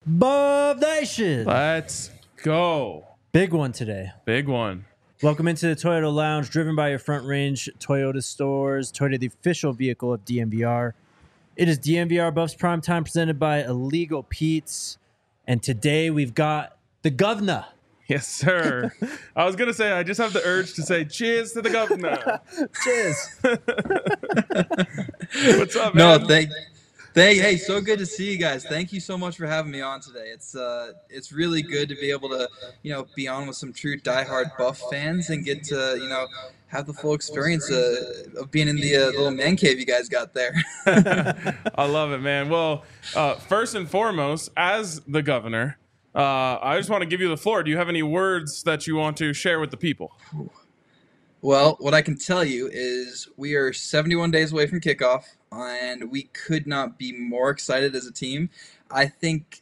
Bob Nation. Let's go. Big one today. Big one. Welcome into the Toyota Lounge, driven by your Front Range Toyota stores. Toyota, the official vehicle of DNVR. It is DNVR Buffs Prime Time, presented by Illegal Pete's. And today we've got the governor. Yes, sir. I was going to say, I just have the urge to say cheers to the governor. Cheers. What's up, man? No, hey, so good to see you guys. Thank you so much for having me on today. It's really good to be able to, be on with some true diehard Buff fans and get to, have the full experience of being in the little man cave you guys got there. I love it, man. Well, first and foremost, as the governor, I just want to give you the floor. Do you have any words that you want to share with the people? Well, what I can tell you is we are 71 days away from kickoff, and we could not be more excited as a team. I think,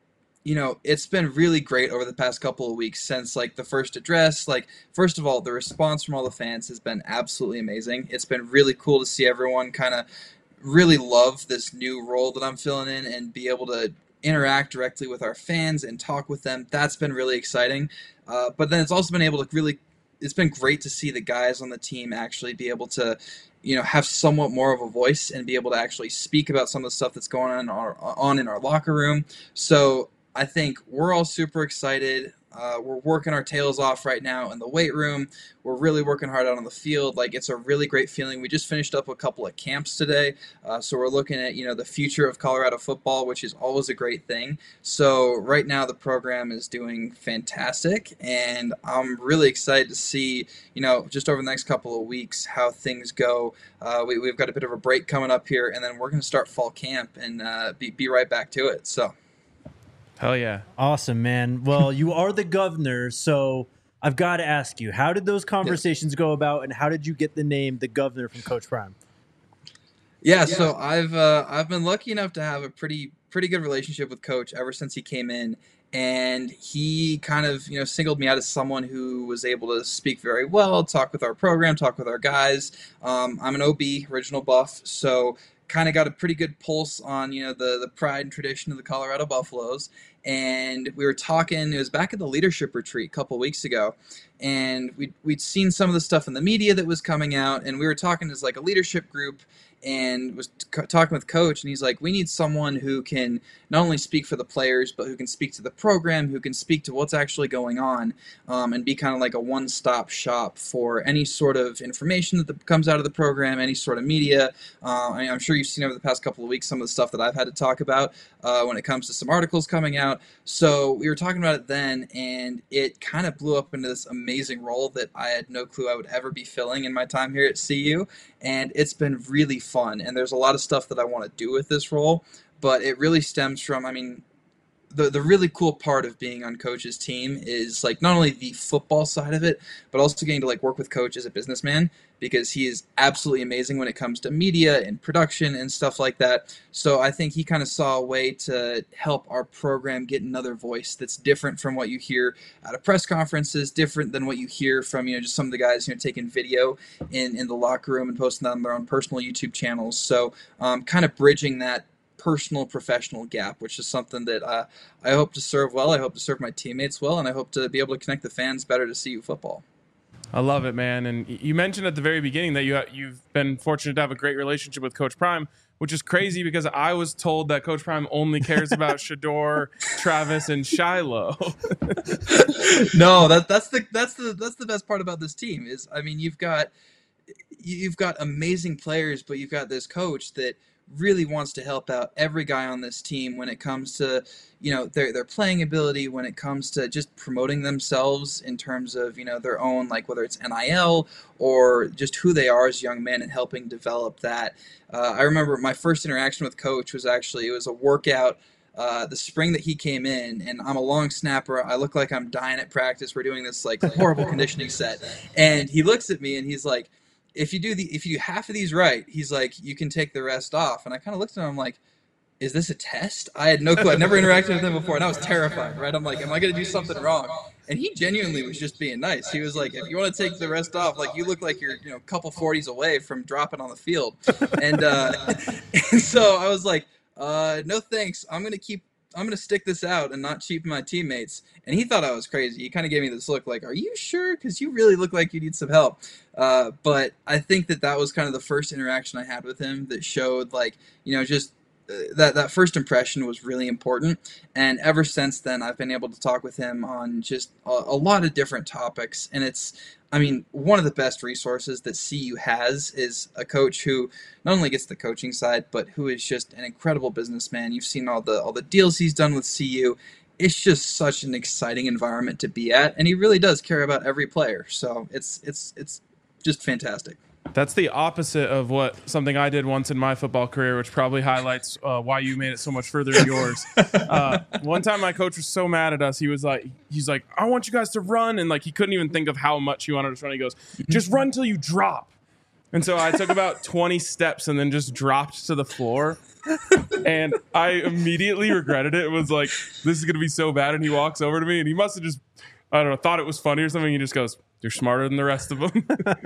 it's been really great over the past couple of weeks since, the first address. First of all, the response from all the fans has been absolutely amazing. It's been really cool to see everyone kind of really love this new role that I'm filling in and be able to interact directly with our fans and talk with them. That's been really exciting. But then it's also been able to it's been great to see the guys on the team actually be able to, have somewhat more of a voice and be able to actually speak about some of the stuff that's going on in our locker room. So I think we're all super excited. We're working our tails off right now in the weight room. We're really working hard out on the field. It's a really great feeling. We just finished up a couple of camps today. So we're looking at, the future of Colorado football, which is always a great thing. So right now the program is doing fantastic. And I'm really excited to see, just over the next couple of weeks, how things go. We've got a bit of a break coming up here, and then we're going to start fall camp and be right back to it. So. Hell yeah. Awesome, man. Well, you are the governor, so I've got to ask you, how did those conversations go about, and how did you get the name the governor from Coach Prime? Yeah, so I've been lucky enough to have a pretty good relationship with Coach ever since he came in, and he kind of singled me out as someone who was able to speak very well, talk with our program, talk with our guys. I'm an OB, original Buff, so kind of got a pretty good pulse on the pride and tradition of the Colorado Buffaloes. And we were talking, it was back at the leadership retreat a couple weeks ago, and we'd seen some of the stuff in the media that was coming out, and we were talking as a leadership group, and was talking with Coach, and he's like, we need someone who can not only speak for the players, but who can speak to the program, who can speak to what's actually going on, and be kind of like a one-stop shop for any sort of information that comes out of the program, any sort of media. I'm sure you've seen over the past couple of weeks some of the stuff that I've had to talk about when it comes to some articles coming out. So we were talking about it then, and it kind of blew up into this amazing role that I had no clue I would ever be filling in my time here at CU, and it's been really fun. And there's a lot of stuff that I want to do with this role, but it really stems from, the really cool part of being on Coach's team is not only the football side of it, but also getting to work with Coach as a businessman, because he is absolutely amazing when it comes to media and production and stuff like that. So I think he kind of saw a way to help our program get another voice that's different from what you hear at a press conferences, different than what you hear from just some of the guys taking video in the locker room and posting that on their own personal YouTube channels. So kind of bridging that personal professional gap, which is something that I hope to serve well. I hope to serve my teammates well, and I hope to be able to connect the fans better to CU football. I love it, man. And you mentioned at the very beginning that you've been fortunate to have a great relationship with Coach Prime, which is crazy because I was told that Coach Prime only cares about Shedeur, Travis, and Shiloh. No, that's the best part about this team is, you've got amazing players, but you've got this coach that really wants to help out every guy on this team when it comes to their playing ability, when it comes to just promoting themselves in terms of their own, whether it's NIL or just who they are as young men, and helping develop that. I remember my first interaction with Coach was it was a workout the spring that he came in, and I'm a long snapper. I look like I'm dying at practice. We're doing this horrible conditioning set, and he looks at me and he's like, if you do half of these right, he's like, you can take the rest off. And I kind of looked at him, I'm like, is this a test? I had no clue. I'd never interacted with him before, and I was terrified, right? I'm like, am I going to do something wrong? And he genuinely was just being nice. He was like, if you want to take the rest off, you look like you're a couple 40s away from dropping on the field. And so I was like, no thanks. I'm going to keep gonna stick this out and not cheapen my teammates. And he thought I was crazy. He kind of gave me this look like, "Are you sure? Because you really look like you need some help." But I think that was kind of the first interaction I had with him that showed, like, just that first impression was really important. And ever since then, I've been able to talk with him on just a lot of different topics. And one of the best resources that CU has is a coach who not only gets the coaching side, but who is just an incredible businessman. You've seen all the deals he's done with CU. It's just such an exciting environment to be at, and he really does care about every player. So it's just fantastic. That's the opposite of something I did once in my football career, which probably highlights why you made it so much further in yours. One time my coach was so mad at us. He's like, I want you guys to run. And like, he couldn't even think of how much he wanted us to run. He goes, just run till you drop. And so I took about 20 steps and then just dropped to the floor. And I immediately regretted it. It was like, this is going to be so bad. And he walks over to me and he must have just, I don't know, thought it was funny or something. He just goes, "You're smarter than the rest of them."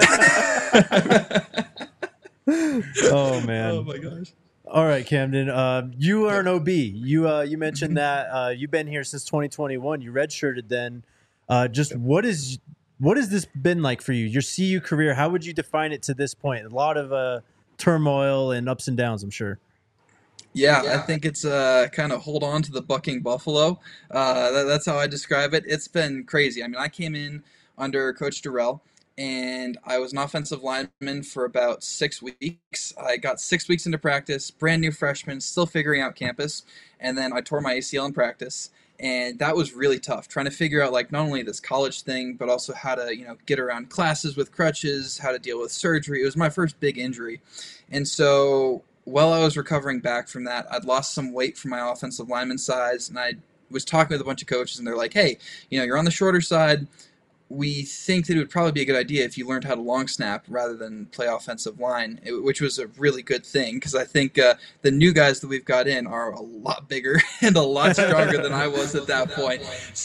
Oh, man. Oh, my gosh. All right, Camden. You are an OB. You mentioned that you've been here since 2021. You redshirted then. Just what has this been like for you? Your CU career, how would you define it to this point? A lot of turmoil and ups and downs, I'm sure. Yeah, I think it's kind of hold on to the bucking buffalo. That's how I describe it. It's been crazy. I mean, I came in under Coach Durrell, and I was an offensive lineman for about 6 weeks. I got 6 weeks into practice, brand new freshman, still figuring out campus, and then I tore my ACL in practice. And that was really tough, trying to figure out, like, not only this college thing, but also how to, get around classes with crutches, how to deal with surgery. It was my first big injury. And so while I was recovering back from that, I'd lost some weight from my offensive lineman size, and I was talking with a bunch of coaches, and they're like, "Hey, you're on the shorter side. We think that it would probably be a good idea if you learned how to long snap rather than play offensive line," which was a really good thing, because I think the new guys that we've got in are a lot bigger and a lot stronger than I was at that point.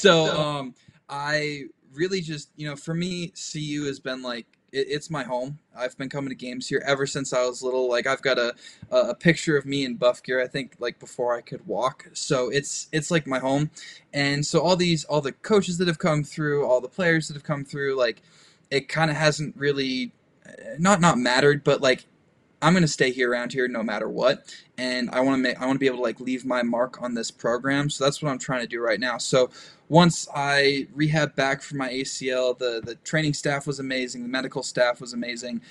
So I really just, for me, CU has been like, it's my home. I've been coming to games here ever since I was little. Like, I've got a picture of me in buff gear, I think, like, before I could walk. So it's like my home. And so all the coaches that have come through, all the players that have come through, like, it kind of hasn't really not mattered, but like, I'm going to stay here around here no matter what. And I want to be able to, like, leave my mark on this program. So that's what I'm trying to do right now. So once I rehab back from my ACL, the training staff was amazing. The medical staff was amazing.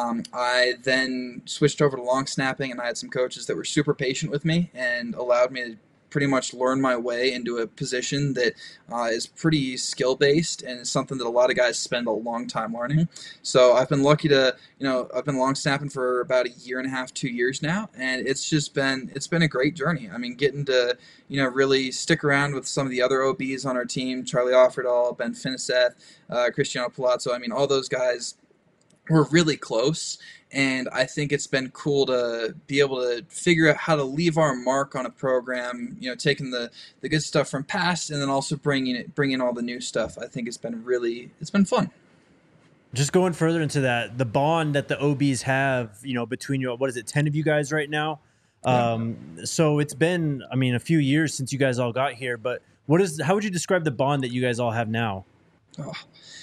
I then switched over to long snapping, and I had some coaches that were super patient with me and allowed me to pretty much learn my way into a position that is pretty skill-based and is something that a lot of guys spend a long time learning. So I've been lucky to, I've been long snapping for about 1.5 years, 2 years now, and it's been a great journey. I mean, getting to, really stick around with some of the other OBs on our team, Charlie Offerdahl, Ben Finiseth, Cristiano Palazzo. I mean, all those guys were really close, and I think it's been cool to be able to figure out how to leave our mark on a program, taking the good stuff from past and then also bringing all the new stuff. I think it's been fun. Just going further into that, the bond that the OBs have, between you, what is it, 10 of you guys right now? Yeah. So it's been, a few years since you guys all got here, but how would you describe the bond that you guys all have now? Oh,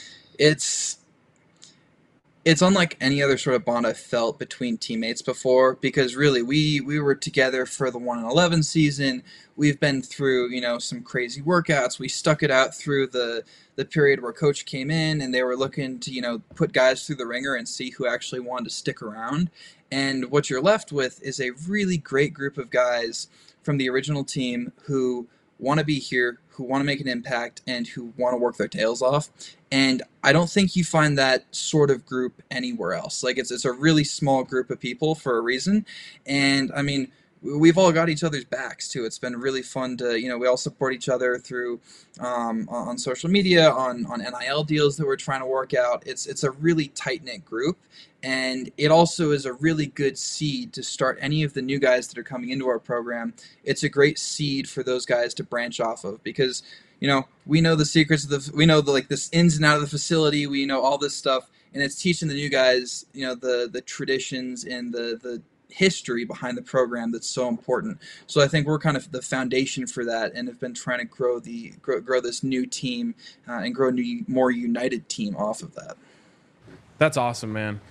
it's unlike any other sort of bond I've felt between teammates before, because really we were together for the 1-11 season. We've been through, some crazy workouts. We stuck it out through the period where Coach came in and they were looking to, put guys through the ringer and see who actually wanted to stick around. And what you're left with is a really great group of guys from the original team who want to be here, who want to make an impact, and who want to work their tails off. And I don't think you find that sort of group anywhere else. Like, it's a really small group of people for a reason. And we've all got each other's backs too. It's been really fun to, we all support each other through on social media, on NIL deals that we're trying to work out. It's a really tight-knit group, and it also is a really good seed to start any of the new guys that are coming into our program. It's a great seed for those guys to branch off of, because we know the secrets of we know this ins and out of the facility. We know all this stuff, and it's teaching the new guys, the traditions and the history behind the program that's so important. So I think we're kind of the foundation for that, and have been trying to grow this new team and grow a new, more united team off of that. That's awesome, man.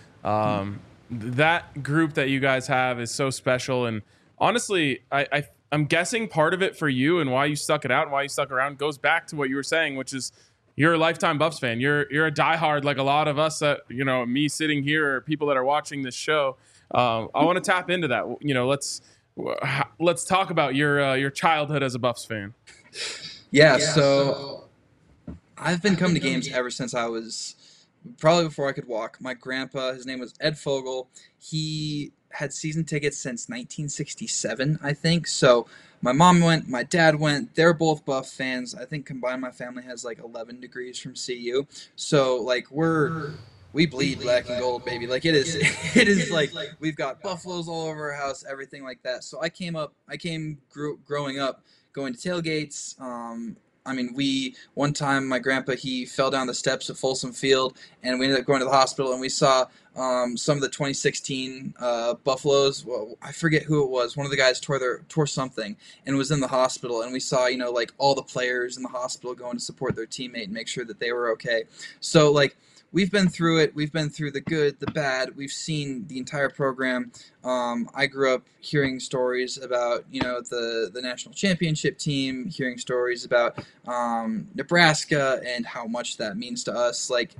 That group that you guys have is so special, and honestly, I'm guessing part of it for you and why you stuck it out and why you stuck around goes back to what you were saying, which is you're a lifetime Buffs fan. You're a diehard, like a lot of us that, me sitting here or people that are watching this show. I want to tap into that. Let's talk about your childhood as a Buffs fan. Yeah, so I've been coming to games ever since I was probably before I could walk. My grandpa, his name was Ed Fogel. He had season tickets since 1967, I think. So my mom went, my dad went. They're both Buff fans. I think combined my family has like 11 degrees from CU. So like we bleed black and gold, baby. Like it is like we've got buffaloes all over our house, everything like that. So I came growing up going to tailgates. One time my grandpa, he fell down the steps at Folsom Field, and we ended up going to the hospital, and we saw some of the 2016 Buffaloes. Well, I forget who it was. One of the guys tore something and was in the hospital, and we saw, like all the players in the hospital going to support their teammate and make sure that they were okay. So like, we've been through it. We've been through the good, the bad. We've seen the entire program. I grew up hearing stories about, the national championship team, hearing stories about Nebraska and how much that means to us. Like,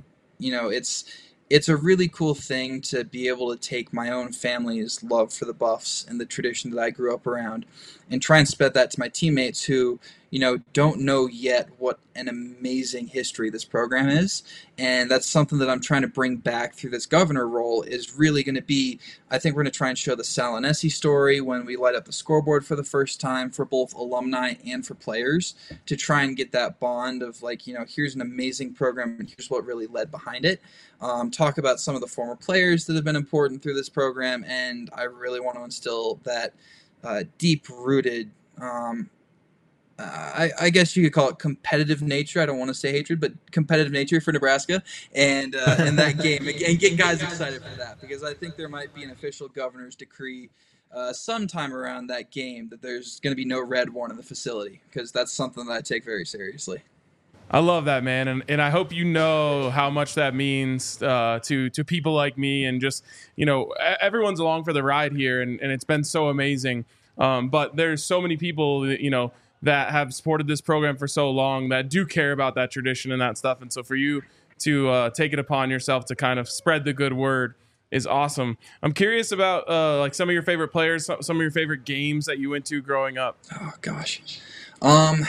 it's a really cool thing to be able to take my own family's love for the Buffs and the tradition that I grew up around and try and spread that to my teammates who, don't know yet what an amazing history this program is. And that's something that I'm trying to bring back through this governor role is really going to be, I think we're going to try and show the Salinesi story when we light up the scoreboard for the first time for both alumni and for players to try and get that bond of like, here's an amazing program and here's what really led behind it. Talk about some of the former players that have been important through this program. And I really want to instill that deep-rooted I guess you could call it competitive nature. I don't want to say hatred, but competitive nature for Nebraska and that game and get guys excited for that because I think there might be an official governor's decree sometime around that game that there's going to be no red worn in the facility because that's something that I take very seriously. I love that, man, and I hope you know how much that means to people like me and just everyone's along for the ride here, and it's been so amazing. But there's so many people that have supported this program for so long that do care about that tradition and that stuff. And so for you to take it upon yourself to kind of spread the good word is awesome. I'm curious about like some of your favorite players, some of your favorite games that you went to growing up. Oh gosh. I'm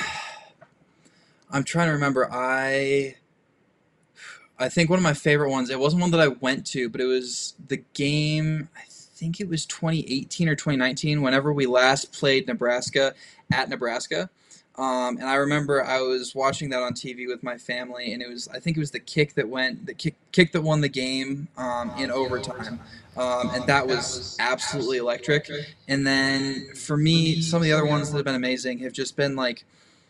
trying to remember. I think one of my favorite ones, it wasn't one that I went to, but it was the game, I think it was 2018 or 2019, whenever we last played Nebraska at Nebraska. And I remember I was watching that on TV with my family, and I think it was the kick that won the game in overtime. And that was absolutely electric. And then for me, some of the other ones that have been amazing have just been like,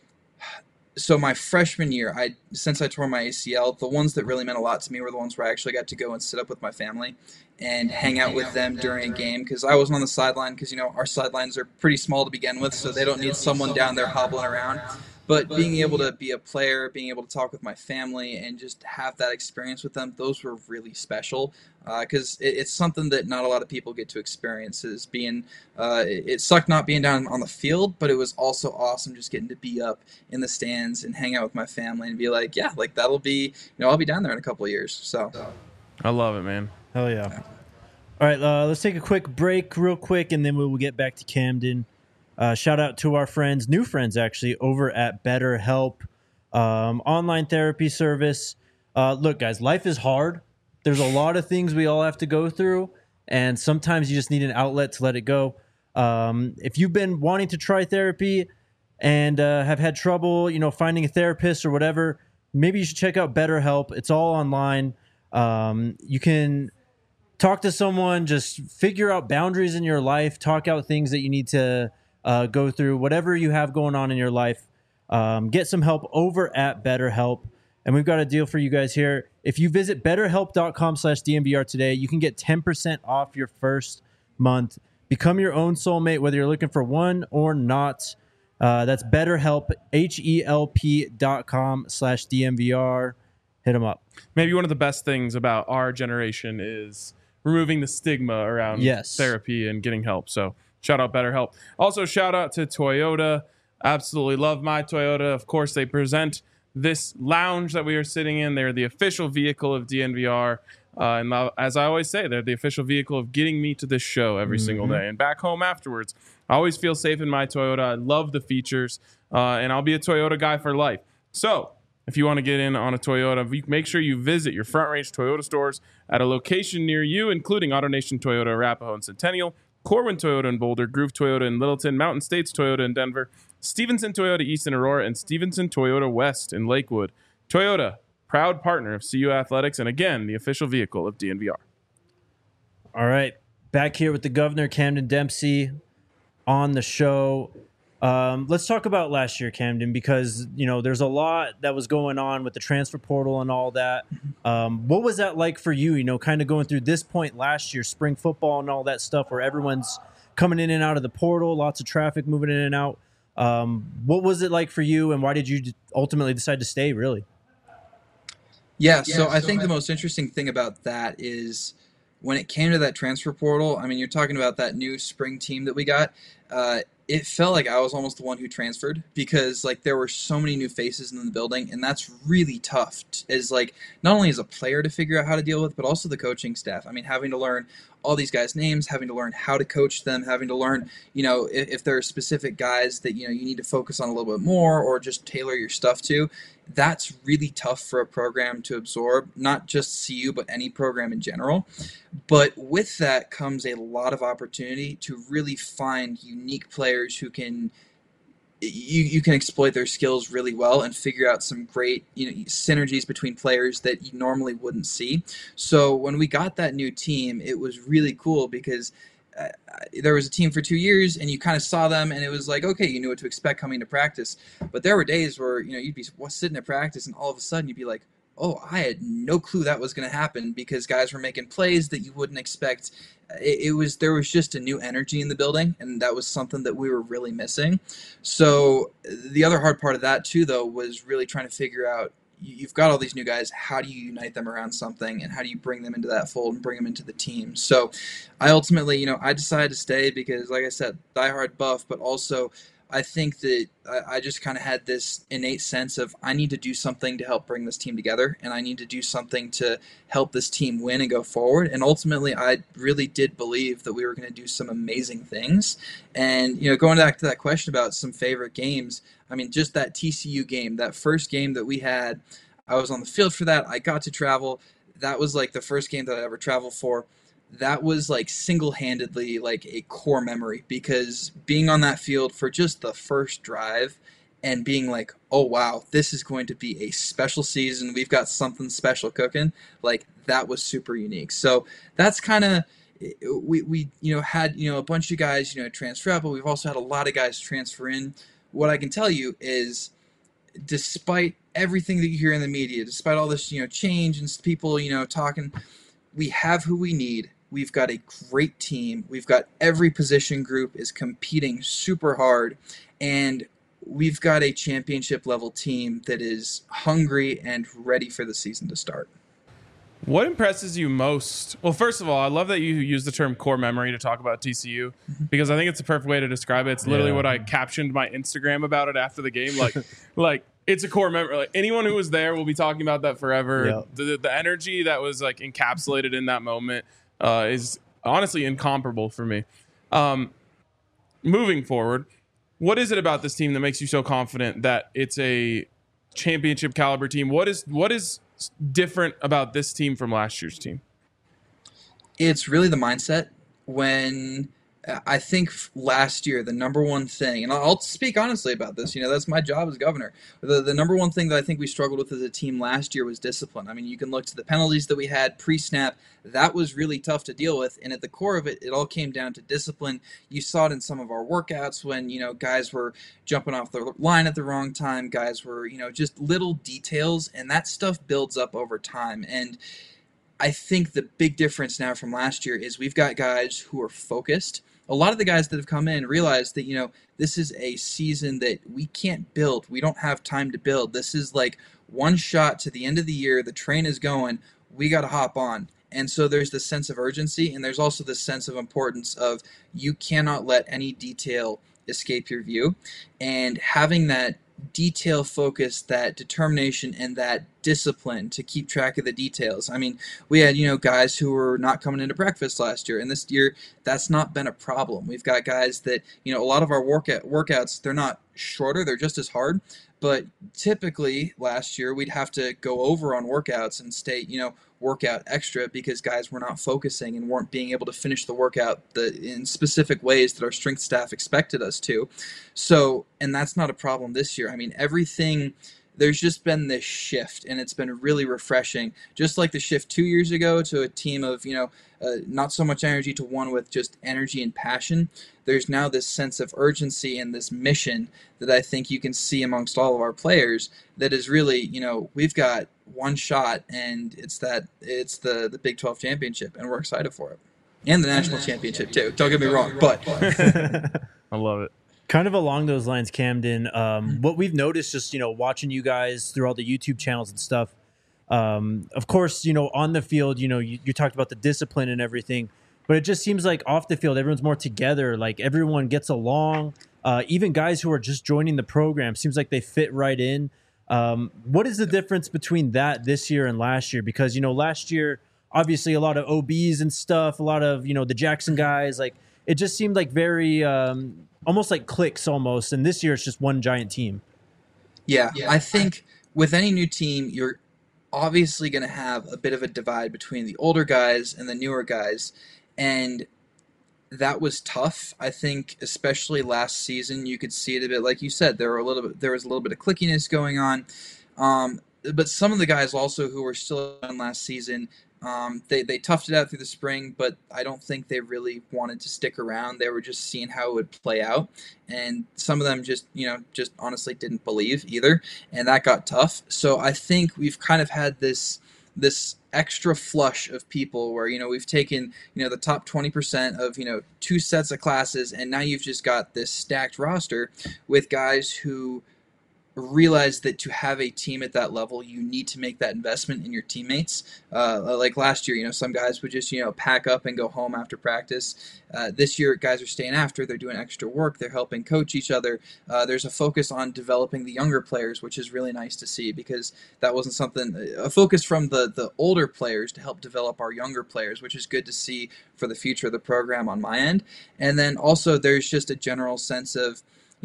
so my freshman year, since I tore my ACL, the ones that really meant a lot to me were the ones where I actually got to go and sit up with my family and hang out with them during a game because I wasn't on the sideline because, our sidelines are pretty small to begin with, so they don't need someone down there hobbling around. But being able to be a player, being able to talk with my family and just have that experience with them, those were really special because it's something that not a lot of people get to experience is being, it sucked not being down on the field, but it was also awesome just getting to be up in the stands and hang out with my family and be like, yeah, like that'll be, I'll be down there in a couple of years. So I love it, man. Hell yeah. All right, let's take a quick break real quick, and then we'll get back to Camden. Shout out to our friends, new friends actually, over at BetterHelp, online therapy service. Look, guys, life is hard. There's a lot of things we all have to go through, and sometimes you just need an outlet to let it go. If you've been wanting to try therapy and have had trouble, finding a therapist or whatever, maybe you should check out BetterHelp. It's all online. You can talk to someone, just figure out boundaries in your life, talk out things that you need to go through, whatever you have going on in your life. Get some help over at BetterHelp. And we've got a deal for you guys here. If you visit betterhelp.com/DNVR today, you can get 10% off your first month. Become your own soulmate, whether you're looking for one or not. That's BetterHelp, HELP.com/DMVR. Hit them up. Maybe one of the best things about our generation is removing the stigma around therapy and getting help. So shout out BetterHelp. Also, shout out to Toyota. Absolutely love my Toyota. Of course, they present this lounge that we are sitting in. They're the official vehicle of DNVR. And as I always say, they're the official vehicle of getting me to this show every single day and back home afterwards. I always feel safe in my Toyota. I love the features, and I'll be a Toyota guy for life. So if you want to get in on a Toyota, make sure you visit your Front Range Toyota stores at a location near you, including AutoNation Toyota, Arapahoe and Centennial, Corwin Toyota in Boulder, Groove Toyota in Littleton, Mountain States Toyota in Denver, Stevenson Toyota East in Aurora, and Stevenson Toyota West in Lakewood. Toyota, proud partner of CU Athletics, and again, the official vehicle of DNVR. All right, back here with the governor, Camden Dempsey, on the show. Let's talk about last year, Camden, because there's a lot that was going on with the transfer portal and all that. What was that like for you? Kind of going through this point last year, spring football and all that stuff, where everyone's coming in and out of the portal, lots of traffic moving in and out. What was it like for you, and why did you ultimately decide to stay? Really? Yeah. So I think the most interesting thing about that is when it came to that transfer portal. I mean, you're talking about that new spring team that we got. It felt like I was almost the one who transferred because there were so many new faces in the building, and that's really tough as not only as a player to figure out how to deal with, but also the coaching staff. I mean, having to learn all these guys' names, having to learn how to coach them, having to learn, if there are specific guys that, you need to focus on a little bit more or just tailor your stuff to. That's really tough for a program to absorb, not just CU, but any program in general. But with that comes a lot of opportunity to really find unique players who can you can exploit their skills really well and figure out some great synergies between players that you normally wouldn't see. So when we got that new team, it was really cool because there was a team for 2 years and you kind of saw them and it was like, okay, you knew what to expect coming to practice. But there were days where you'd be sitting at practice and all of a sudden you'd be like, oh, I had no clue that was going to happen because guys were making plays that you wouldn't expect. There was just a new energy in the building, and that was something that we were really missing. So the other hard part of that too, though, was really trying to figure out, you've got all these new guys, how do you unite them around something, and how do you bring them into that fold and bring them into the team? So I ultimately, I decided to stay because, like I said, diehard Buff, but also I think that I just kind of had this innate sense of I need to do something to help bring this team together, and I need to do something to help this team win and go forward. And ultimately, I really did believe that we were going to do some amazing things. And, going back to that question about some favorite games, I mean, just that TCU game, that first game that we had, I was on the field for that. I got to travel. That was the first game that I ever traveled for. That was single-handedly a core memory because being on that field for just the first drive and being oh wow, this is going to be a special season. We've got something special cooking. That was super unique. So that's kind of, we had a bunch of guys transfer out, but we've also had a lot of guys transfer in. What I can tell you is, despite everything that you hear in the media, despite all this change and people talking, we have who we need. We've got a great team. We've got every position group is competing super hard, and we've got a championship level team that is hungry and ready for the season to start. What impresses you most? Well, first of all, I love that you use the term core memory to talk about TCU because I think it's a perfect way to describe it. It's literally what I captioned my Instagram about it after the game. It's a core memory. Anyone who was there will be talking about that forever. Yeah. The energy that was encapsulated in that moment is honestly incomparable for me. Moving forward, what is it about this team that makes you so confident that it's a championship caliber team? What is different about this team from last year's team? It's really the mindset. When I think last year, the number one thing, and I'll speak honestly about this, that's my job as governor. The number one thing that I think we struggled with as a team last year was discipline. I mean, you can look to the penalties that we had pre-snap. That was really tough to deal with. And at the core of it, it all came down to discipline. You saw it in some of our workouts when, guys were jumping off the line at the wrong time. Guys were, just little details. And that stuff builds up over time. And I think the big difference now from last year is we've got guys who are focused. a lot of the guys that have come in realize that, this is a season that we can't build. We don't have time to build. This is like one shot to the end of the year. The train is going. We got to hop on. And so there's this sense of urgency, and there's also this sense of importance of you cannot let any detail escape your view. And having that detail focus, that determination, and that discipline to keep track of the details. I mean, we had, guys who were not coming into breakfast last year, and this year that's not been a problem. We've got guys that, a lot of our workouts, they're not shorter, they're just as hard. But typically last year we'd have to go over on workouts and stay, workout extra because guys were not focusing and weren't being able to finish the workout in specific ways that our strength staff expected us to. So, and that's not a problem this year. I mean, there's just been this shift, and it's been really refreshing. Just like the shift 2 years ago to a team of, not so much energy to one with just energy and passion. There's now this sense of urgency and this mission that I think you can see amongst all of our players that is really, we've got one shot, and it's the Big 12 championship, and we're excited for it. And the national championship too. Don't get me wrong, but I love it. Kind of along those lines, Camden, what we've noticed just, watching you guys through all the YouTube channels and stuff, of course, on the field, you talked about the discipline and everything, but it just seems like off the field, everyone's more together. Like everyone gets along. Even guys who are just joining the program, seems like they fit right in. What is the difference between that this year and last year? Because, last year, obviously a lot of OBs and stuff, a lot of, the Jackson guys, like it just seemed like very, almost like cliques almost. And this year it's just one giant team. Yeah, I think with any new team, you're obviously going to have a bit of a divide between the older guys and the newer guys. And that was tough. I think, especially last season, you could see it a bit. Like you said, there was a little bit of clickiness going on. But some of the guys also who were still on last season, they toughed it out through the spring, but I don't think they really wanted to stick around. They were just seeing how it would play out, and some of them just honestly didn't believe either, and that got tough. So I think we've kind of had this extra flush of people where we've taken the top 20% of 2 sets of classes, and now you've just got this stacked roster with guys who realize that to have a team at that level, you need to make that investment in your teammates. Like last year, some guys would just pack up and go home after practice. This year, guys are staying after. They're doing extra work. They're helping coach each other. There's a focus on developing the younger players, which is really nice to see because that wasn't a focus from the older players to help develop our younger players, which is good to see for the future of the program on my end. And then also there's just a general sense of,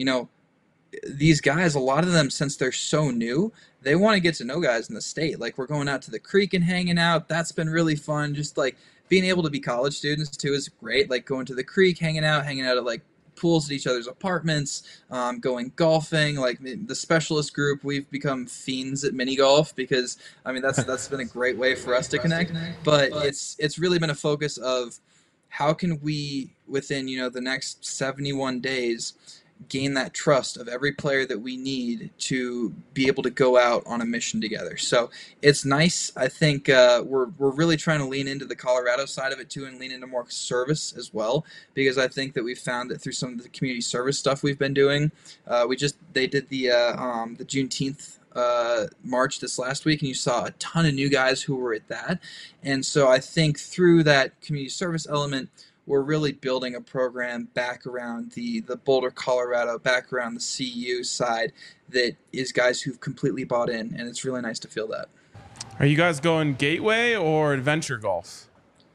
these guys, a lot of them, since they're so new, they want to get to know guys in the state. Like, we're going out to the creek and hanging out. That's been really fun. Just, like, being able to be college students, too, is great. Like, going to the creek, hanging out at, like, pools at each other's apartments, going golfing. Like, the specialist group, we've become fiends at mini golf because, I mean, that's been a great way for us to connect. But it's really been a focus of how can we, within, the next 71 days, gain that trust of every player that we need to be able to go out on a mission together. So it's nice. I think we're really trying to lean into the Colorado side of it too, and lean into more service as well, because I think that we've found that through some of the community service stuff we've been doing, they did the Juneteenth March this last week, and you saw a ton of new guys who were at that. And so I think through that community service element, we're really building a program back around the Boulder, Colorado, back around the CU side that is guys who've completely bought in, and it's really nice to feel that. Are you guys going Gateway or Adventure Golf?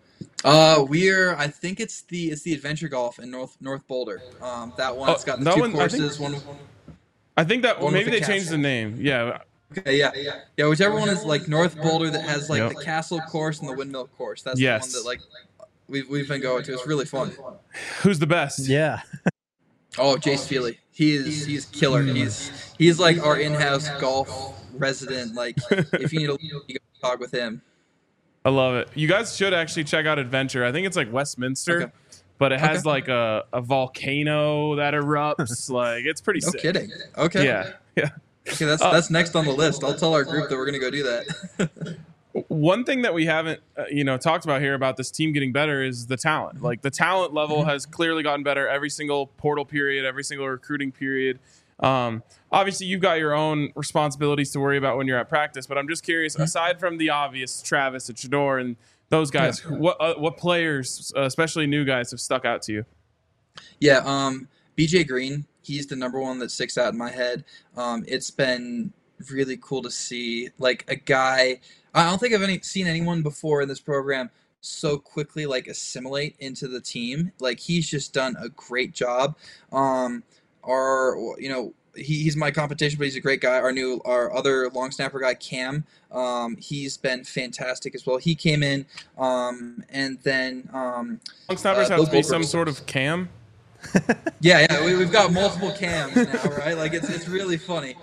I think it's the Adventure Golf in North Boulder. That one, it's got the two courses. I think that maybe they changed the name. Yeah. Okay, yeah. Whichever one is like North Boulder that has like the Castle course and the Windmill course. That's the one that like we've been going to. It's really fun. Who's the best? Yeah. Oh, Jace Feely. He's killer. He's like our in-house golf resident. Like, if you need you go talk with him. I love it. You guys should actually check out Adventure. I think it's like Westminster, but it has like a volcano that erupts. Like, it's pretty sick. No kidding. Okay. Yeah. Okay, that's next on the list. I'll tell our group that we're gonna go do that. One thing that we haven't, talked about here about this team getting better is the talent. Like the talent level has clearly gotten better every single portal period, every single recruiting period. Obviously, you've got your own responsibilities to worry about when you're at practice. But I'm just curious, aside from the obvious, Travis and Shedeur and those guys, what players, especially new guys, have stuck out to you? Yeah, BJ Green, he's the number one that sticks out in my head. It's been really cool to see, like, a guy. I don't think I've seen anyone before in this program so quickly like assimilate into the team. Like, he's just done a great job. He's my competition, but he's a great guy. Our other long snapper guy, Cam, he's been fantastic as well. He came in, and then long snappers have to be some sort of Cam. Yeah, we've got multiple Cams now, right? Like, it's really funny.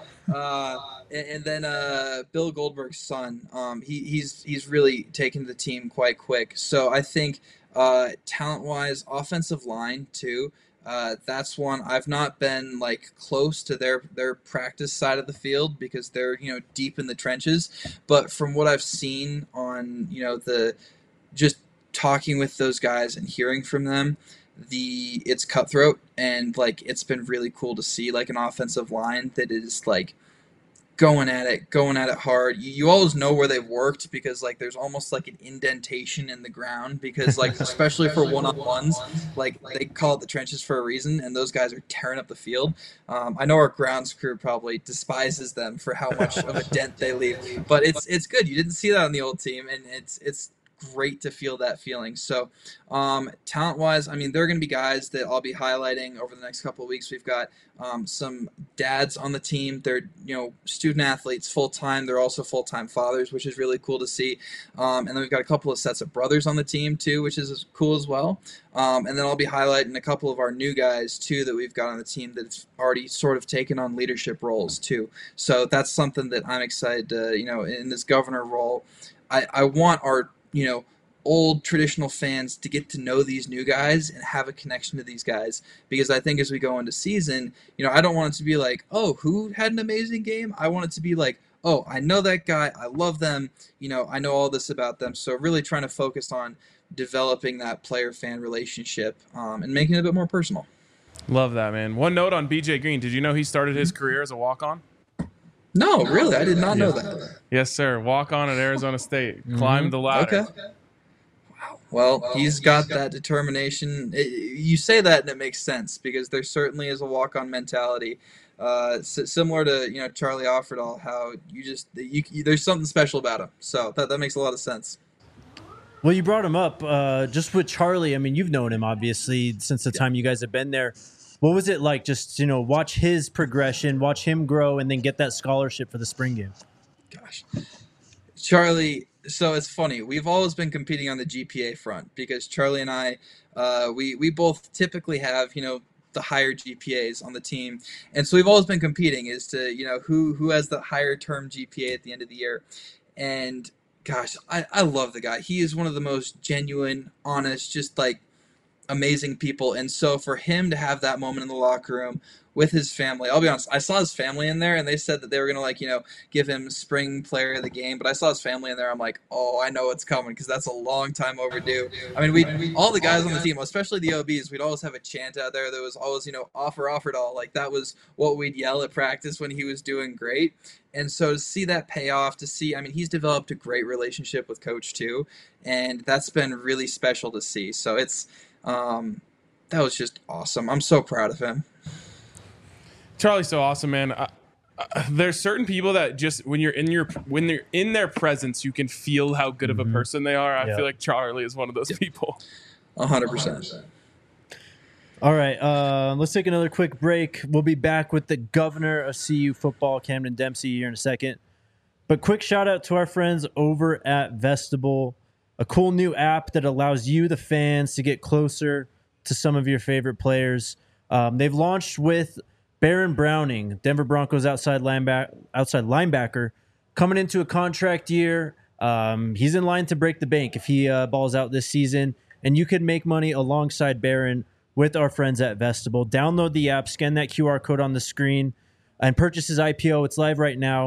And then Bill Goldberg's son, he's really taken the team quite quick. So I think talent-wise, offensive line too. That's one I've not been like close to their practice side of the field because they're deep in the trenches. But from what I've seen on the just talking with those guys and hearing from them, it's cutthroat, and like it's been really cool to see like an offensive line that is like going at it hard. You always know where they've worked because like there's almost like an indentation in the ground because like especially for one-on-ones, like they call it the trenches for a reason, and those guys are tearing up the field. I know our grounds crew probably despises them for how much of a dent they leave, but it's good. You didn't see that on the old team, and it's great to feel that feeling. So talent-wise, I mean, there are going to be guys that I'll be highlighting over the next couple of weeks. We've got some dads on the team. They're student athletes full-time. They're also full-time fathers, which is really cool to see. And then we've got a couple of sets of brothers on the team too, which is cool as well. And then I'll be highlighting a couple of our new guys too that we've got on the team that's already sort of taken on leadership roles too. So that's something that I'm excited to, in this governor role. I want our old traditional fans to get to know these new guys and have a connection to these guys, because I think as we go into season, I don't want it to be like, oh, who had an amazing game? I want it to be like, oh, I know that guy, I love them, I know all this about them. So really trying to focus on developing that player-fan relationship and making it a bit more personal. Love that, man. One note on BJ Green. Did you know he started his career as a walk-on? No, really? I did not know that. Yes, sir. Walk-on at Arizona State. Climbed the ladder. Okay. Wow. Well, he's got that determination. You say that and it makes sense because there certainly is a walk-on mentality. Similar to Charlie Offerdahl, how there's something special about him. So that makes a lot of sense. Well, you brought him up just with Charlie. I mean, you've known him obviously since the time you guys have been there. What was it like just, watch his progression, watch him grow, and then get that scholarship for the spring game? Gosh. Charlie, so it's funny. We've always been competing on the GPA front because Charlie and I, we both typically have, the higher GPAs on the team. And so we've always been competing as to, who has the higher term GPA at the end of the year. And, gosh, I love the guy. He is one of the most genuine, honest, just like, amazing people. And so for him to have that moment in the locker room with his family, I'll be honest, I saw his family in there and they said that they were going to give him spring player of the game, but I saw his family in there. I'm like, oh, I know it's coming because that's a long time overdue. I mean, we all the guys on the team, especially the OBs, we'd always have a chant out there that was always, offered all. Like that was what we'd yell at practice when he was doing great. And so to see that pay off, he's developed a great relationship with Coach too. And that's been really special to see. So that was just awesome. I'm so proud of him. Charlie's so awesome, man. There's certain people that just when you're in their presence, you can feel how good of a person they are. I feel like Charlie is one of those people. 100%. All right, let's take another quick break. We'll be back with the governor of CU football, Camden Dempsey, here in a second. But quick shout out to our friends over at Vestibule, a cool new app that allows you, the fans, to get closer to some of your favorite players. They've launched with Baron Browning, Denver Broncos outside linebacker, coming into a contract year. He's in line to break the bank if he balls out this season, and you can make money alongside Baron with our friends at Vestibule. Download the app, scan that QR code on the screen, and purchase his IPO. It's live right now.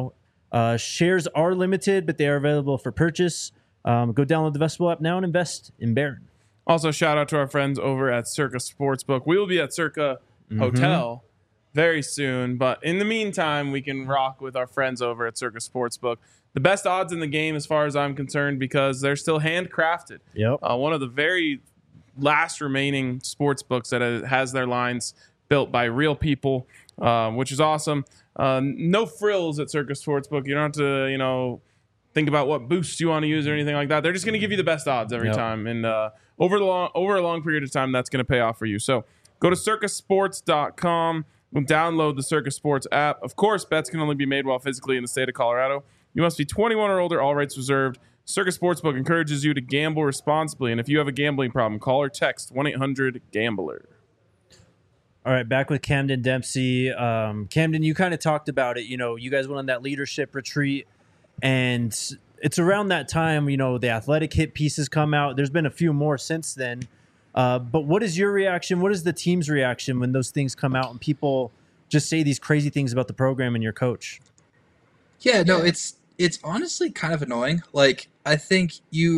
Shares are limited, but they are available for purchase. Go download the Vestibule app now and invest in Barron. Also, shout out to our friends over at Circa Sportsbook. We will be at Circa Hotel very soon, but in the meantime, we can rock with our friends over at Circa Sportsbook. The best odds in the game, as far as I'm concerned, because they're still handcrafted. Yep. One of the very last remaining sports books that has their lines built by real people, which is awesome. No frills at Circa Sportsbook. You don't have to, think about what boosts you want to use or anything like that. They're just going to give you the best odds every time, and over a long period of time, that's going to pay off for you. So go to circasports.com and download the Circa Sports app. Of course, bets can only be made while physically in the state of Colorado. You must be 21 or older, all rights reserved. Circa Sportsbook encourages you to gamble responsibly, and if you have a gambling problem, call or text 1-800-GAMBLER. All right, back with Camden Dempsey. Camden, you kind of talked about it. You guys went on that leadership retreat, and it's around that time, the athletic hit pieces come out. There's been a few more since then. But what is your reaction? What is the team's reaction when those things come out and people just say these crazy things about the program and your coach? Yeah, no, it's honestly kind of annoying. Like, I think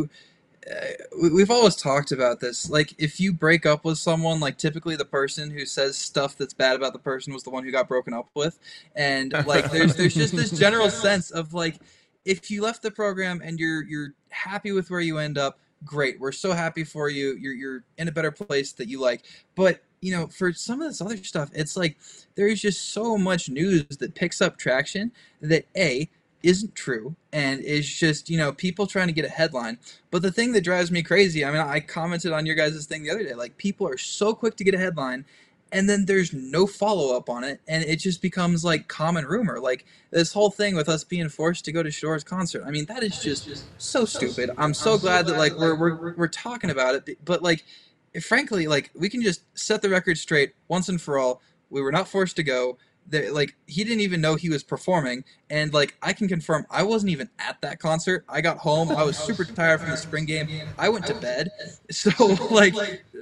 we've always talked about this. Like, if you break up with someone, like, typically the person who says stuff that's bad about the person was the one who got broken up with. And, like, there's just this general sense of, like, if you left the program and you're happy with where you end up, great. We're so happy for you. You're in a better place that you like. But, for some of this other stuff, it's like there's just so much news that picks up traction that isn't true and is just, people trying to get a headline. But the thing that drives me crazy, I commented on your guys' thing the other day, like, people are so quick to get a headline and then there's no follow-up on it, and it just becomes like common rumor. Like, this whole thing with us being forced to go to Shadore's concert, that is just so stupid. I'm so glad that, like, we're talking about it, but, like, frankly, like, we can just set the record straight once and for all. We were not forced to go. Like, he didn't even know he was performing, and, like, I can confirm I wasn't even at that concert. I got home, I was super tired from the spring game, I went to bed. So, like,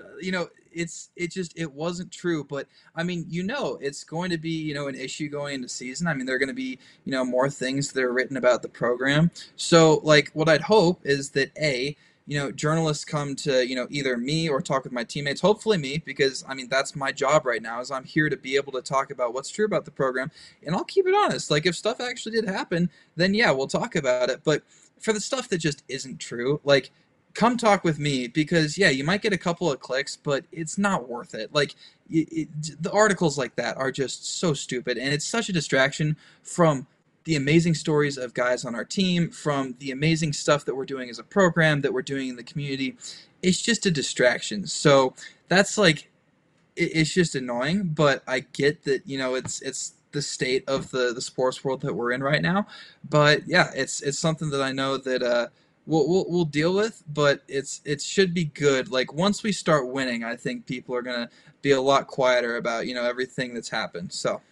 it wasn't true. But it's going to be an issue going into season. There are going to be more things that are written about the program. So, like, what I'd hope is that journalists come to, either me or talk with my teammates, hopefully me, because, that's my job right now, is I'm here to be able to talk about what's true about the program, and I'll keep it honest. Like, if stuff actually did happen, then yeah, we'll talk about it. But for the stuff that just isn't true, like, come talk with me, because, yeah, you might get a couple of clicks, but it's not worth it. Like, the articles like that are just so stupid, and it's such a distraction from the amazing stories of guys on our team, from the amazing stuff that we're doing as a program, that we're doing in the community. It's just a distraction. So that's, like, it's just annoying, but I get that, it's the state of the sports world that we're in right now. But yeah, it's something that I know that we'll deal with, but it should be good. Like, once we start winning, I think people are gonna be a lot quieter about everything that's happened. So.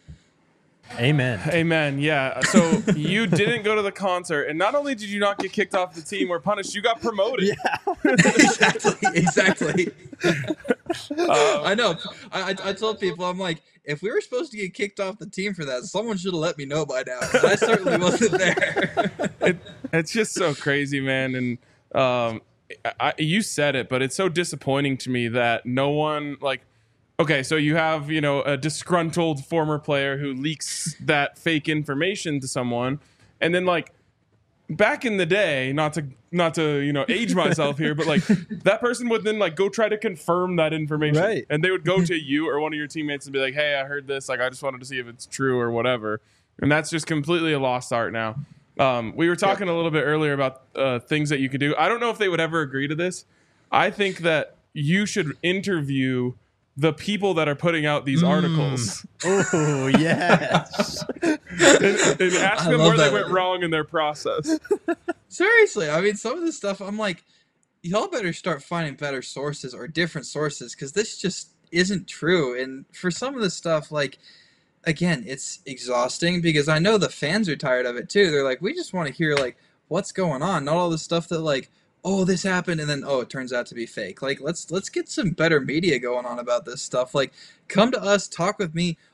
Amen. Yeah. So you didn't go to the concert, and not only did you not get kicked off the team or punished, you got promoted. Yeah. Exactly. I know. I told people, I'm like, if we were supposed to get kicked off the team for that, someone should have let me know by now. But I certainly wasn't there. It's just so crazy, man. And you said it, but it's so disappointing to me that no one, like, okay, so you have, a disgruntled former player who leaks that fake information to someone, and then, like, back in the day, not to age myself here, but, like, that person would then, like, go try to confirm that information, right? And they would go to you or one of your teammates and be like, "Hey, I heard this. Like, I just wanted to see if it's true or whatever." And that's just completely a lost art now. We were talking a little bit earlier about things that you could do. I don't know if they would ever agree to this. I think that you should interview the people that are putting out these articles. Oh, yes. and ask them where they went wrong in their process. Seriously, some of this stuff, I'm like, y'all better start finding better sources or different sources, because this just isn't true. And for some of this stuff, like, again, it's exhausting, because I know the fans are tired of it too. They're like, we just want to hear, like, what's going on, not all the stuff that, like, oh, this happened, and then, oh, it turns out to be fake. Like, let's get some better media going on about this stuff. Like, come to us, talk with me.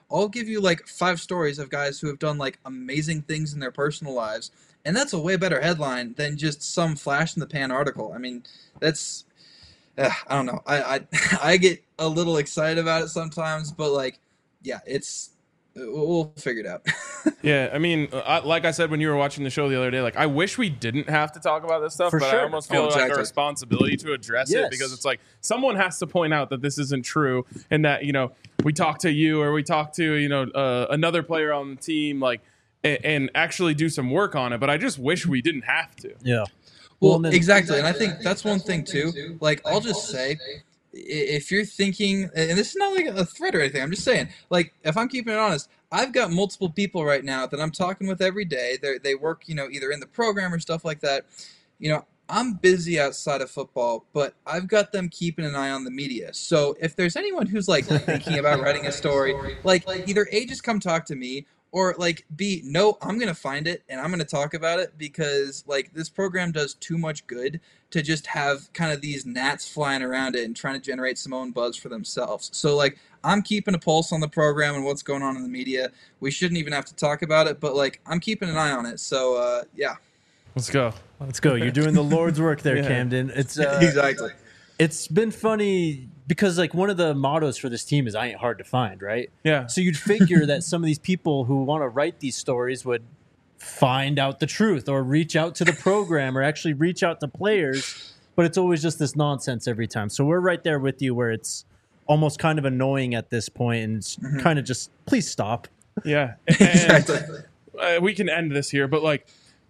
I'll give you like 5 stories of guys who have done like amazing things in their personal lives, and that's a way better headline than just some flash in the pan article. I mean, that's I don't know. I get a little excited about it sometimes, but like, yeah, we'll figure it out. Yeah, I mean, like I said when you were watching the show the other day, like I wish we didn't have to talk about this stuff, For but sure. I almost feel like exactly. a responsibility to address it, Yes. because it's like someone has to point out that this isn't true, and that, you know, we talk to you or we talk to, you know, another player on the team, like, and actually do some work on it. But I just wish we didn't have to. Yeah. Well, and then- exactly, and I think that's one thing too. Like, I'll just say, if you're thinking, and this is not like a threat or anything, I'm just saying, like, if I'm keeping it honest, I've got multiple people right now that I'm talking with every day. They work, you know, either in the program or stuff like that. You know, I'm busy outside of football, but I've got them keeping an eye on the media. So if there's anyone who's like thinking about writing a story, like either A, just come talk to me, or like B, no, I'm going to find it and I'm going to talk about it, because like this program does too much good to just have kind of these gnats flying around it and trying to generate some own buzz for themselves. So like, I'm keeping a pulse on the program and what's going on in the media. We shouldn't even have to talk about it, but like, I'm keeping an eye on it. So yeah. Let's go. Let's go. You're doing the Lord's work there, Yeah. Camden. It's Exactly. It's been funny because like one of the mottos for this team is "I ain't hard to find," right? Yeah. So you'd figure that some of these people who want to write these stories would find out the truth or reach out to the program or actually reach out to players, but it's always just this nonsense every time. So we're right there with you, where it's almost kind of annoying at this point, and it's kind of just please stop. Yeah. Exactly. And, we can end this here, but like,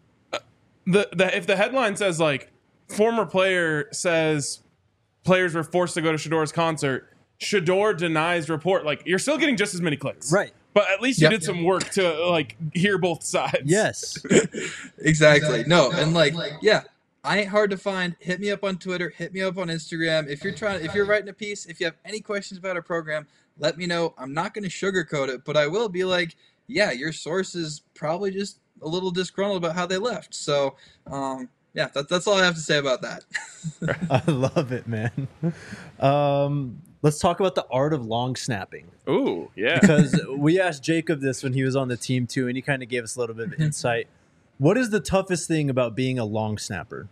if the headline says like former player says players were forced to go to Shador's concert, Shador denies report, like you're still getting just as many clicks, Right. But at least you Yep. did some work to like hear both sides. Yes. Exactly. No, and like, yeah, I ain't hard to find. Hit me up on Twitter. Hit me up on Instagram. If you're writing a piece, if you have any questions about our program, let me know. I'm not going to sugarcoat it, but I will be like, yeah, your source is probably just a little disgruntled about how they left. So, yeah, that's all I have to say about that. I love it, man. Let's talk about the art of long snapping, Ooh, yeah. because we asked Jacob this when he was on the team too, and he kind of gave us a little bit of insight. What is the toughest thing about being a long snapper?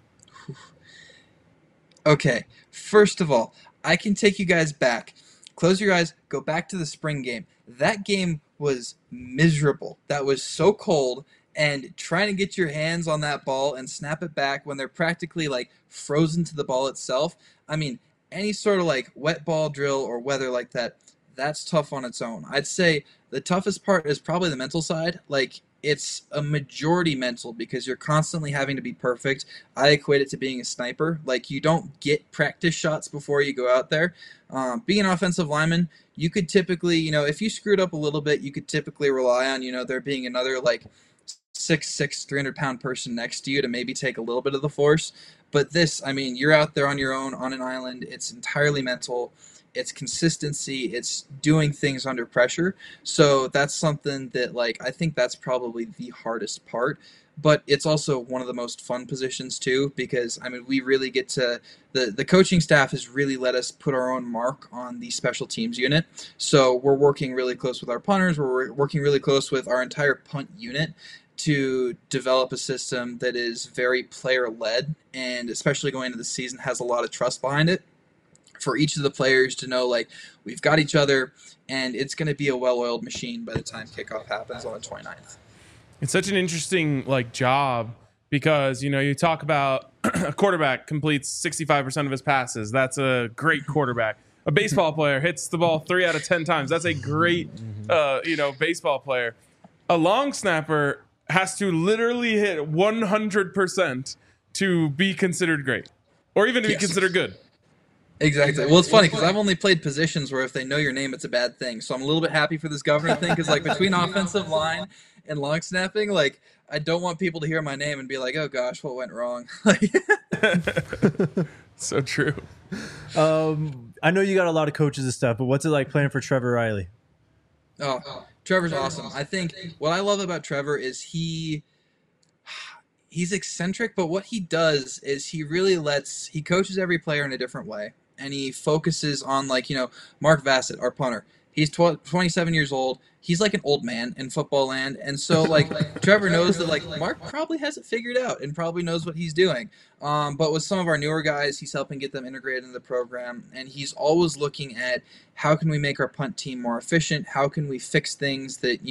Okay, first of all, I can take you guys back. Close your eyes, go back to the spring game. That game was miserable. That was so cold, and trying to get your hands on that ball and snap it back when they're practically like frozen to the ball itself. I mean, any sort of like wet ball drill or weather like that, that's tough on its own. I'd say the toughest part is probably the mental side. Like, it's a majority mental because you're constantly having to be perfect. I equate it to being a sniper. Like, you don't get practice shots before you go out there. Being an offensive lineman, you could typically, you know, if you screwed up a little bit, you could typically rely on, you know, there being another like 6'6", 300-pound person next to you to maybe take a little bit of the force. But this, I mean, you're out there on your own on an island. It's entirely mental. It's consistency. It's doing things under pressure. So that's something that, like, I think that's probably the hardest part. But it's also one of the most fun positions too, because I mean, we really get to the coaching staff has really let us put our own mark on the special teams unit. So we're working really close with our punters. We're working really close with our entire punt unit to develop a system that is very player-led, and especially going into the season has a lot of trust behind it for each of the players to know, like, we've got each other, and it's going to be a well-oiled machine by the time kickoff happens on the 29th. It's such an interesting like job, because, you know, you talk about a quarterback completes 65% of his passes. That's a great quarterback. A baseball player hits the ball 3 out of 10 times. That's a great, you know, baseball player. A long snapper has to literally hit 100% to be considered great, or even to be Yes. considered good. Exactly. Well, it's funny because I've only played positions where if they know your name, it's a bad thing. So I'm a little bit happy for this governor thing, because like between offensive line and long snapping, like I don't want people to hear my name and be like, "Oh gosh, what went wrong?" So true. I know you got a lot of coaches and stuff, but what's it like playing for Trevor Riley? Oh, Trevor's awesome. I think what I love about Trevor is he's eccentric, but what he does is he coaches every player in a different way. And he focuses on, like, you know, Mark Vassett, our punter. He's 27 years old. He's like an old man in football land. And so, like, Trevor knows that, like, Mark probably has it figured out and probably knows what he's doing. But with some of our newer guys, he's helping get them integrated into the program. And he's always looking at how can we make our punt team more efficient? How can we fix things that,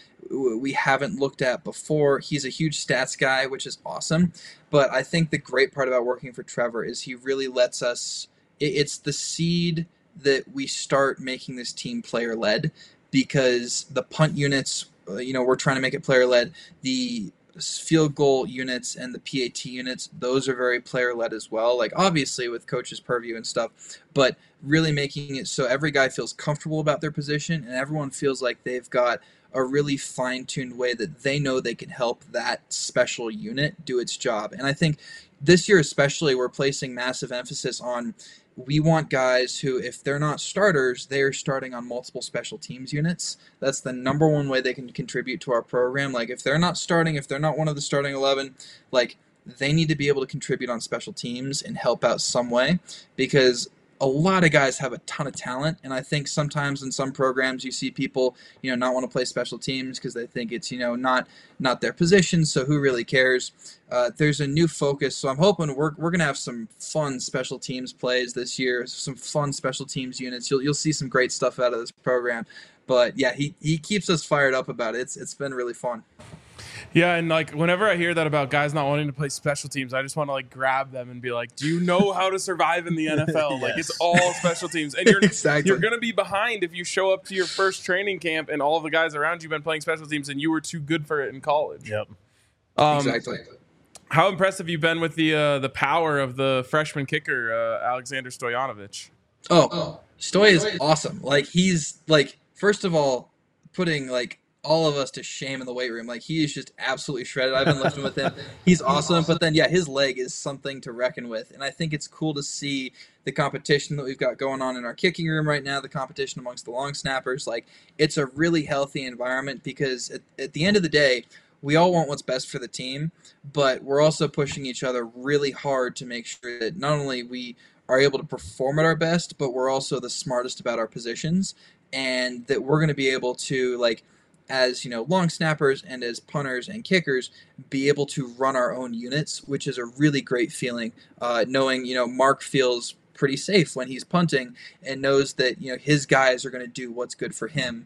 we haven't looked at before? He's a huge stats guy, which is awesome. But I think the great part about working for Trevor is he really lets us, it's the seed that we start making this team player led, because the punt units, we're trying to make it player led. The field goal units and the PAT units, those are very player led as well. Like, obviously with coach's purview and stuff, but really making it so every guy feels comfortable about their position and everyone feels like they've got a really fine-tuned way that they know they can help that special unit do its job. And I think this year especially, we're placing massive emphasis on, we want guys who, if they're not starters, they're starting on multiple special teams units. That's the number one way they can contribute to our program. Like, if they're not starting, if they're not one of the starting 11, like, they need to be able to contribute on special teams and help out some way, because a lot of guys have a ton of talent, and I think sometimes in some programs you see people, not want to play special teams because they think it's, not their position, so who really cares? There's a new focus, so I'm hoping we're going to have some fun special teams plays this year, some fun special teams units. You'll see some great stuff out of this program. But yeah, he keeps us fired up about it. It's been really fun. Yeah, and like whenever I hear that about guys not wanting to play special teams, I just want to like grab them and be like, "Do you know how to survive in the NFL? Yes. Like, it's all special teams, and you're Exactly. you're going to be behind if you show up to your first training camp and all of the guys around you have been playing special teams and you were too good for it in college." Yep. Exactly. How impressed have you been with the power of the freshman kicker, Alexander Stoyanovich? Oh, Stoy is awesome. Like, he's like, first of all, putting like all of us to shame in the weight room. Like, he is just absolutely shredded. I've been lifting with him. He's awesome. But then, yeah, his leg is something to reckon with. And I think it's cool to see the competition that we've got going on in our kicking room right now, the competition amongst the long snappers. Like, it's a really healthy environment, because at the end of the day, we all want what's best for the team, but we're also pushing each other really hard to make sure that not only we are able to perform at our best, but we're also the smartest about our positions, and that we're going to be able to, like, as long snappers and as punters and kickers, be able to run our own units, which is a really great feeling. Knowing Mark feels pretty safe when he's punting and knows that his guys are going to do what's good for him.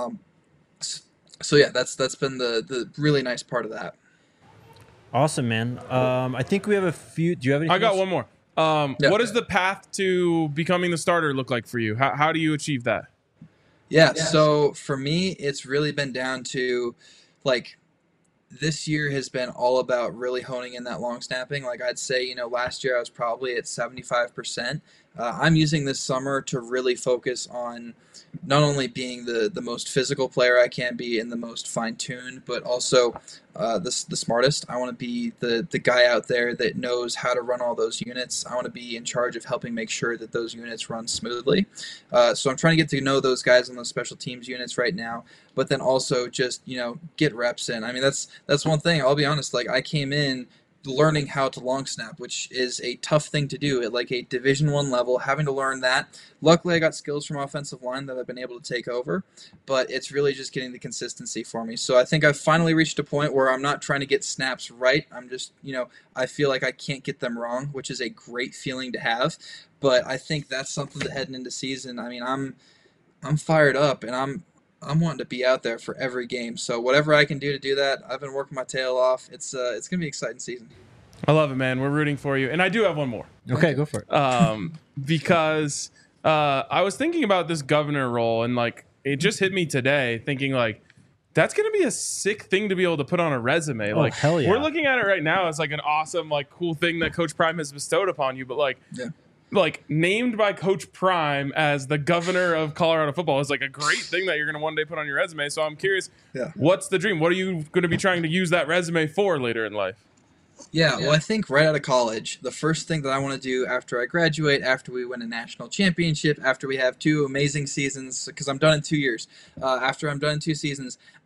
So yeah, that's been the really nice part of that. Awesome, man. I think we have a few. Do you have any? I got one more. What does the path to becoming the starter look like for you? How do you achieve that? Yeah, so for me, it's really been down to, like, this year has been all about really honing in that long snapping. Like, I'd say, last year I was probably at 75%. I'm using this summer to really focus on not only being the most physical player I can be and the most fine-tuned, but also the smartest. I want to be the guy out there that knows how to run all those units. I want to be in charge of helping make sure that those units run smoothly. So I'm trying to get to know those guys on those special teams units right now, but then also just, get reps in. I mean, that's one thing. I'll be honest, like, I came in learning how to long snap, which is a tough thing to do at like a Division I level, having to learn that. Luckily, I got skills from offensive line that I've been able to take over, but it's really just getting the consistency for me. So I think I've finally reached a point where I'm not trying to get snaps right. I'm just, I feel like I can't get them wrong, which is a great feeling to have. But I think that's something that heading into season, I mean, I'm fired up, and I'm wanting to be out there for every game. So whatever I can do to do that, I've been working my tail off. It's going to be an exciting season. I love it, man. We're rooting for you. And I do have one more. Okay, go for it. Because I was thinking about this governor role, and like it just hit me today thinking like that's going to be a sick thing to be able to put on a resume. Oh, like, hell yeah. We're looking at it right now as like an awesome, like cool thing that Coach Prime has bestowed upon you. But like, Yeah. like named by Coach Prime as the governor of Colorado football is like a great thing that you're going to one day put on your resume. So I'm curious, what's the dream? What are you going to be trying to use that resume for later in life? Yeah, well, I think right out of college, the first thing that I want to do after I graduate, after we win a national championship, after we have 2 amazing seasons, because I'm done in 2 years, after I'm done in 2 seasons,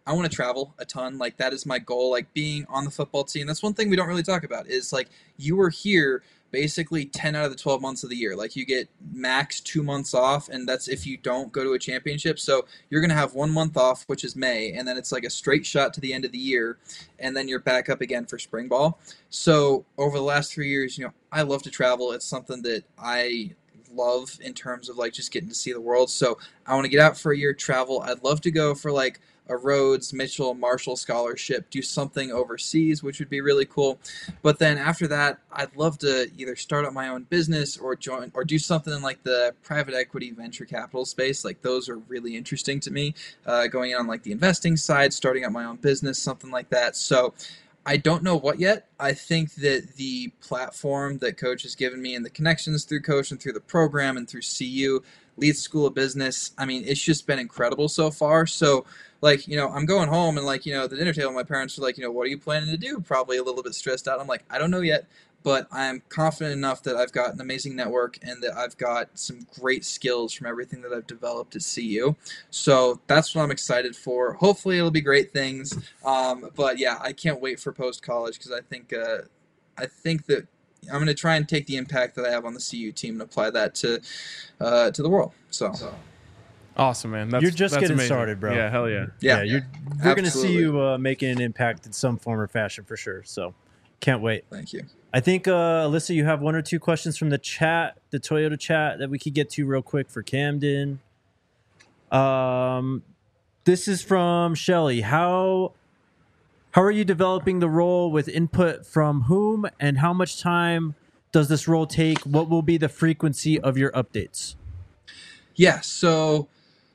I want to travel a ton. Like that is my goal. Like being on the football team. That's one thing we don't really talk about is like you were here basically 10 out of the 12 months of the year. Like you get max 2 months off, and that's if you don't go to a championship. So you're going to have 1 month off, which is May, and then it's like a straight shot to the end of the year, and then you're back up again for spring ball. So over the last 3 years, I love to travel. It's something that I love in terms of like just getting to see the world. So I want to get out for a year, travel. I'd love to go for like a Rhodes, Mitchell, Marshall scholarship, do something overseas, which would be really cool. But then after that, I'd love to either start up my own business or join or do something in like the private equity venture capital space. Like those are really interesting to me. Going in on like the investing side, starting up my own business, something like that. So I don't know what yet. I think that the platform that Coach has given me and the connections through Coach and through the program and through CU, Leeds School of Business, I mean, it's just been incredible so far. So, like, I'm going home and, like, the dinner table, my parents are like, what are you planning to do? Probably a little bit stressed out. I'm like, I don't know yet, but I'm confident enough that I've got an amazing network and that I've got some great skills from everything that I've developed at CU. So that's what I'm excited for. Hopefully it'll be great things. But yeah, I can't wait for post-college because I think that I'm going to try and take the impact that I have on the CU team and apply that to the world. So. Awesome, man. You're just that's getting amazing. started, bro. Yeah, hell yeah. Yeah, we're going to see you making an impact in some form or fashion for sure. So can't wait. Thank you. I think, Alyssa, you have one or two questions from the chat, the Toyota chat, that we could get to real quick for Camden. This is from Shelly. How are you developing the role with input from whom, and how much time does this role take? What will be the frequency of your updates? Yeah, so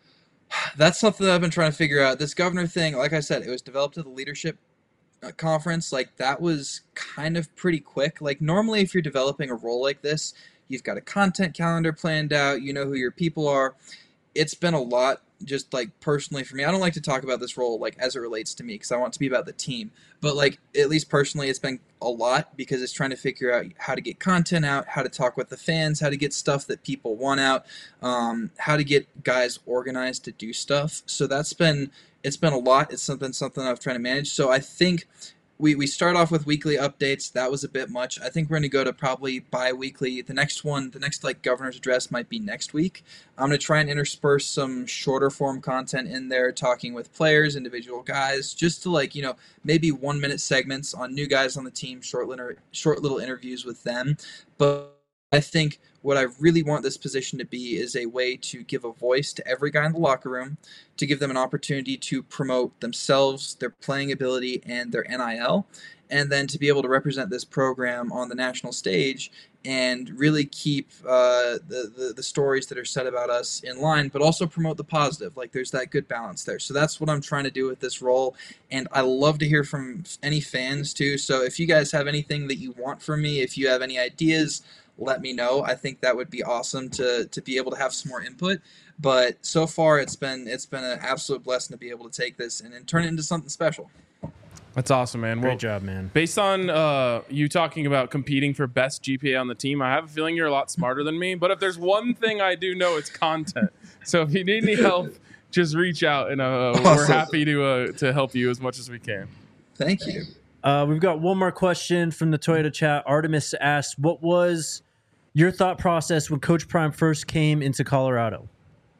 that's something that I've been trying to figure out. This governor thing, like I said, it was developed at the leadership conference. Like that was kind of pretty quick. Like normally if you're developing a role like this, you've got a content calendar planned out, you know who your people are. It's been a lot just like personally for me. I don't like to talk about this role like as it relates to me because I want it to be about the team. But like at least personally it's been a lot because it's trying to figure out how to get content out, how to talk with the fans, how to get stuff that people want out, how to get guys organized to do stuff. So it's been a lot. It's something I've tried to manage. So I think we start off with weekly updates. That was a bit much. I think we're going to go to probably bi-weekly. The next like governor's address might be next week. I'm going to try and intersperse some shorter form content in there, talking with players, individual guys, just to like, maybe 1 minute segments on new guys on the team, short little interviews with them. But I think what I really want this position to be is a way to give a voice to every guy in the locker room, to give them an opportunity to promote themselves, their playing ability, and their NIL, and then to be able to represent this program on the national stage and really keep the stories that are said about us in line, but also promote the positive. Like there's that good balance there. So that's what I'm trying to do with this role, and I love to hear from any fans too. So if you guys have anything that you want from me, if you have any ideas, let me know. I think that would be awesome to be able to have some more input. But so far, it's been an absolute blessing to be able to take this and then turn it into something special. That's awesome, man. Great job, man. Based on you talking about competing for best GPA on the team, I have a feeling you're a lot smarter than me. But if there's one thing I do know, it's content. So if you need any help, just reach out, and awesome. We're happy to help you as much as we can. Thank you. We've got one more question from the Toyota chat. Artemis asked, what was your thought process when Coach Prime first came into Colorado?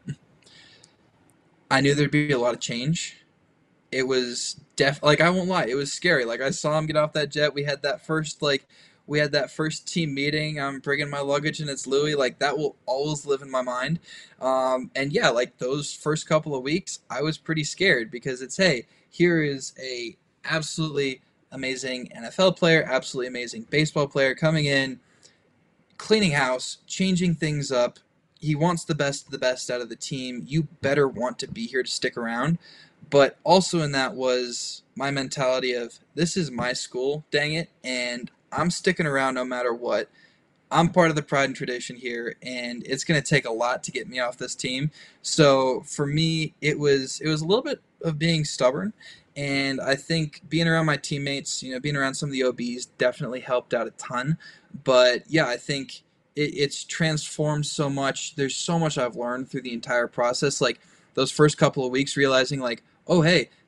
I knew there'd be a lot of change. It was like, I won't lie, it was scary. Like I saw him get off that jet. We had that first team meeting. I'm bringing my luggage and it's Louis. Like that will always live in my mind. And yeah, like those first couple of weeks, I was pretty scared because it's, hey, here is a absolutely amazing NFL player, absolutely amazing baseball player coming in, cleaning house, changing things up. He wants the best of the best out of the team. You better want to be here to stick around. But also in that was my mentality of, this is my school, dang it, and I'm sticking around no matter what. I'm part of the pride and tradition here, and it's going to take a lot to get me off this team. So for me, it was a little bit of being stubborn, and I think being around my teammates, being around some of the OBs definitely helped out a ton. But yeah, I think it's transformed so much. There's so much I've learned through the entire process. Like those first couple of weeks, realizing like, oh, hey,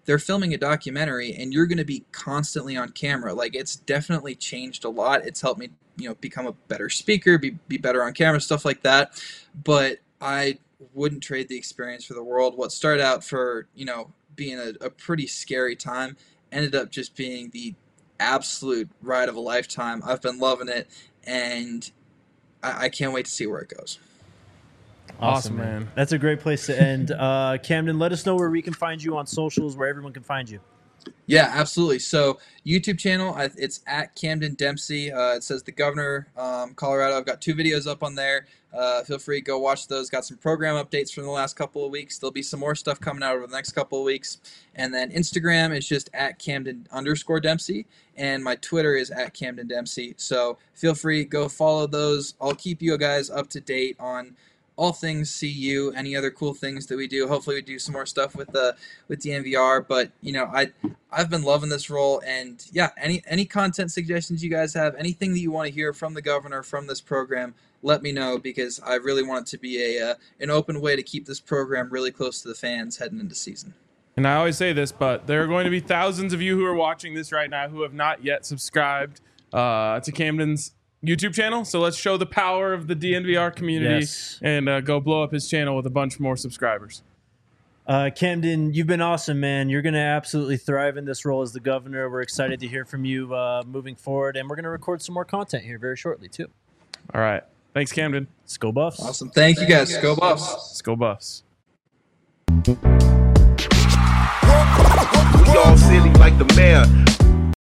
they're filming a documentary and you're going to be constantly on camera. Like, it's definitely changed a lot. It's helped me, become a better speaker, be better on camera, stuff like that. But I wouldn't trade the experience for the world. What started out for, being a pretty scary time ended up just being the absolute ride of a lifetime. I've been loving it, and I can't wait to see where it goes. Awesome, man. That's a great place to end. Camden, let us know where we can find you on socials, where everyone can find you. Yeah, absolutely. So YouTube channel, it's at Camden Dempsey. It says The Governor, Colorado. I've got 2 videos up on there. Feel free to go watch those. Got some program updates from the last couple of weeks. There'll be some more stuff coming out over the next couple of weeks. And then Instagram is just at Camden_Dempsey. And my Twitter is at Camden Dempsey. So feel free, go follow those. I'll keep you guys up to date on all things CU, any other cool things that we do. Hopefully we do some more stuff with DNVR, but I've been loving this role, and yeah, any content suggestions you guys have, anything that you want to hear from the governor, from this program, let me know, because I really want it to be an open way to keep this program really close to the fans heading into season. And I always say this, but there are going to be thousands of you who are watching this right now who have not yet subscribed to Camden's YouTube channel. So let's show the power of the DNVR community and go blow up his channel with a bunch more subscribers. Camden, you've been awesome, man. You're going to absolutely thrive in this role as the governor. We're excited to hear from you moving forward, and we're going to record some more content here very shortly, too. All right. Thanks, Camden. Let's go Buffs. Awesome. Thank you, guys. Go Buffs. Let's go Buffs. We all silly like the mayor.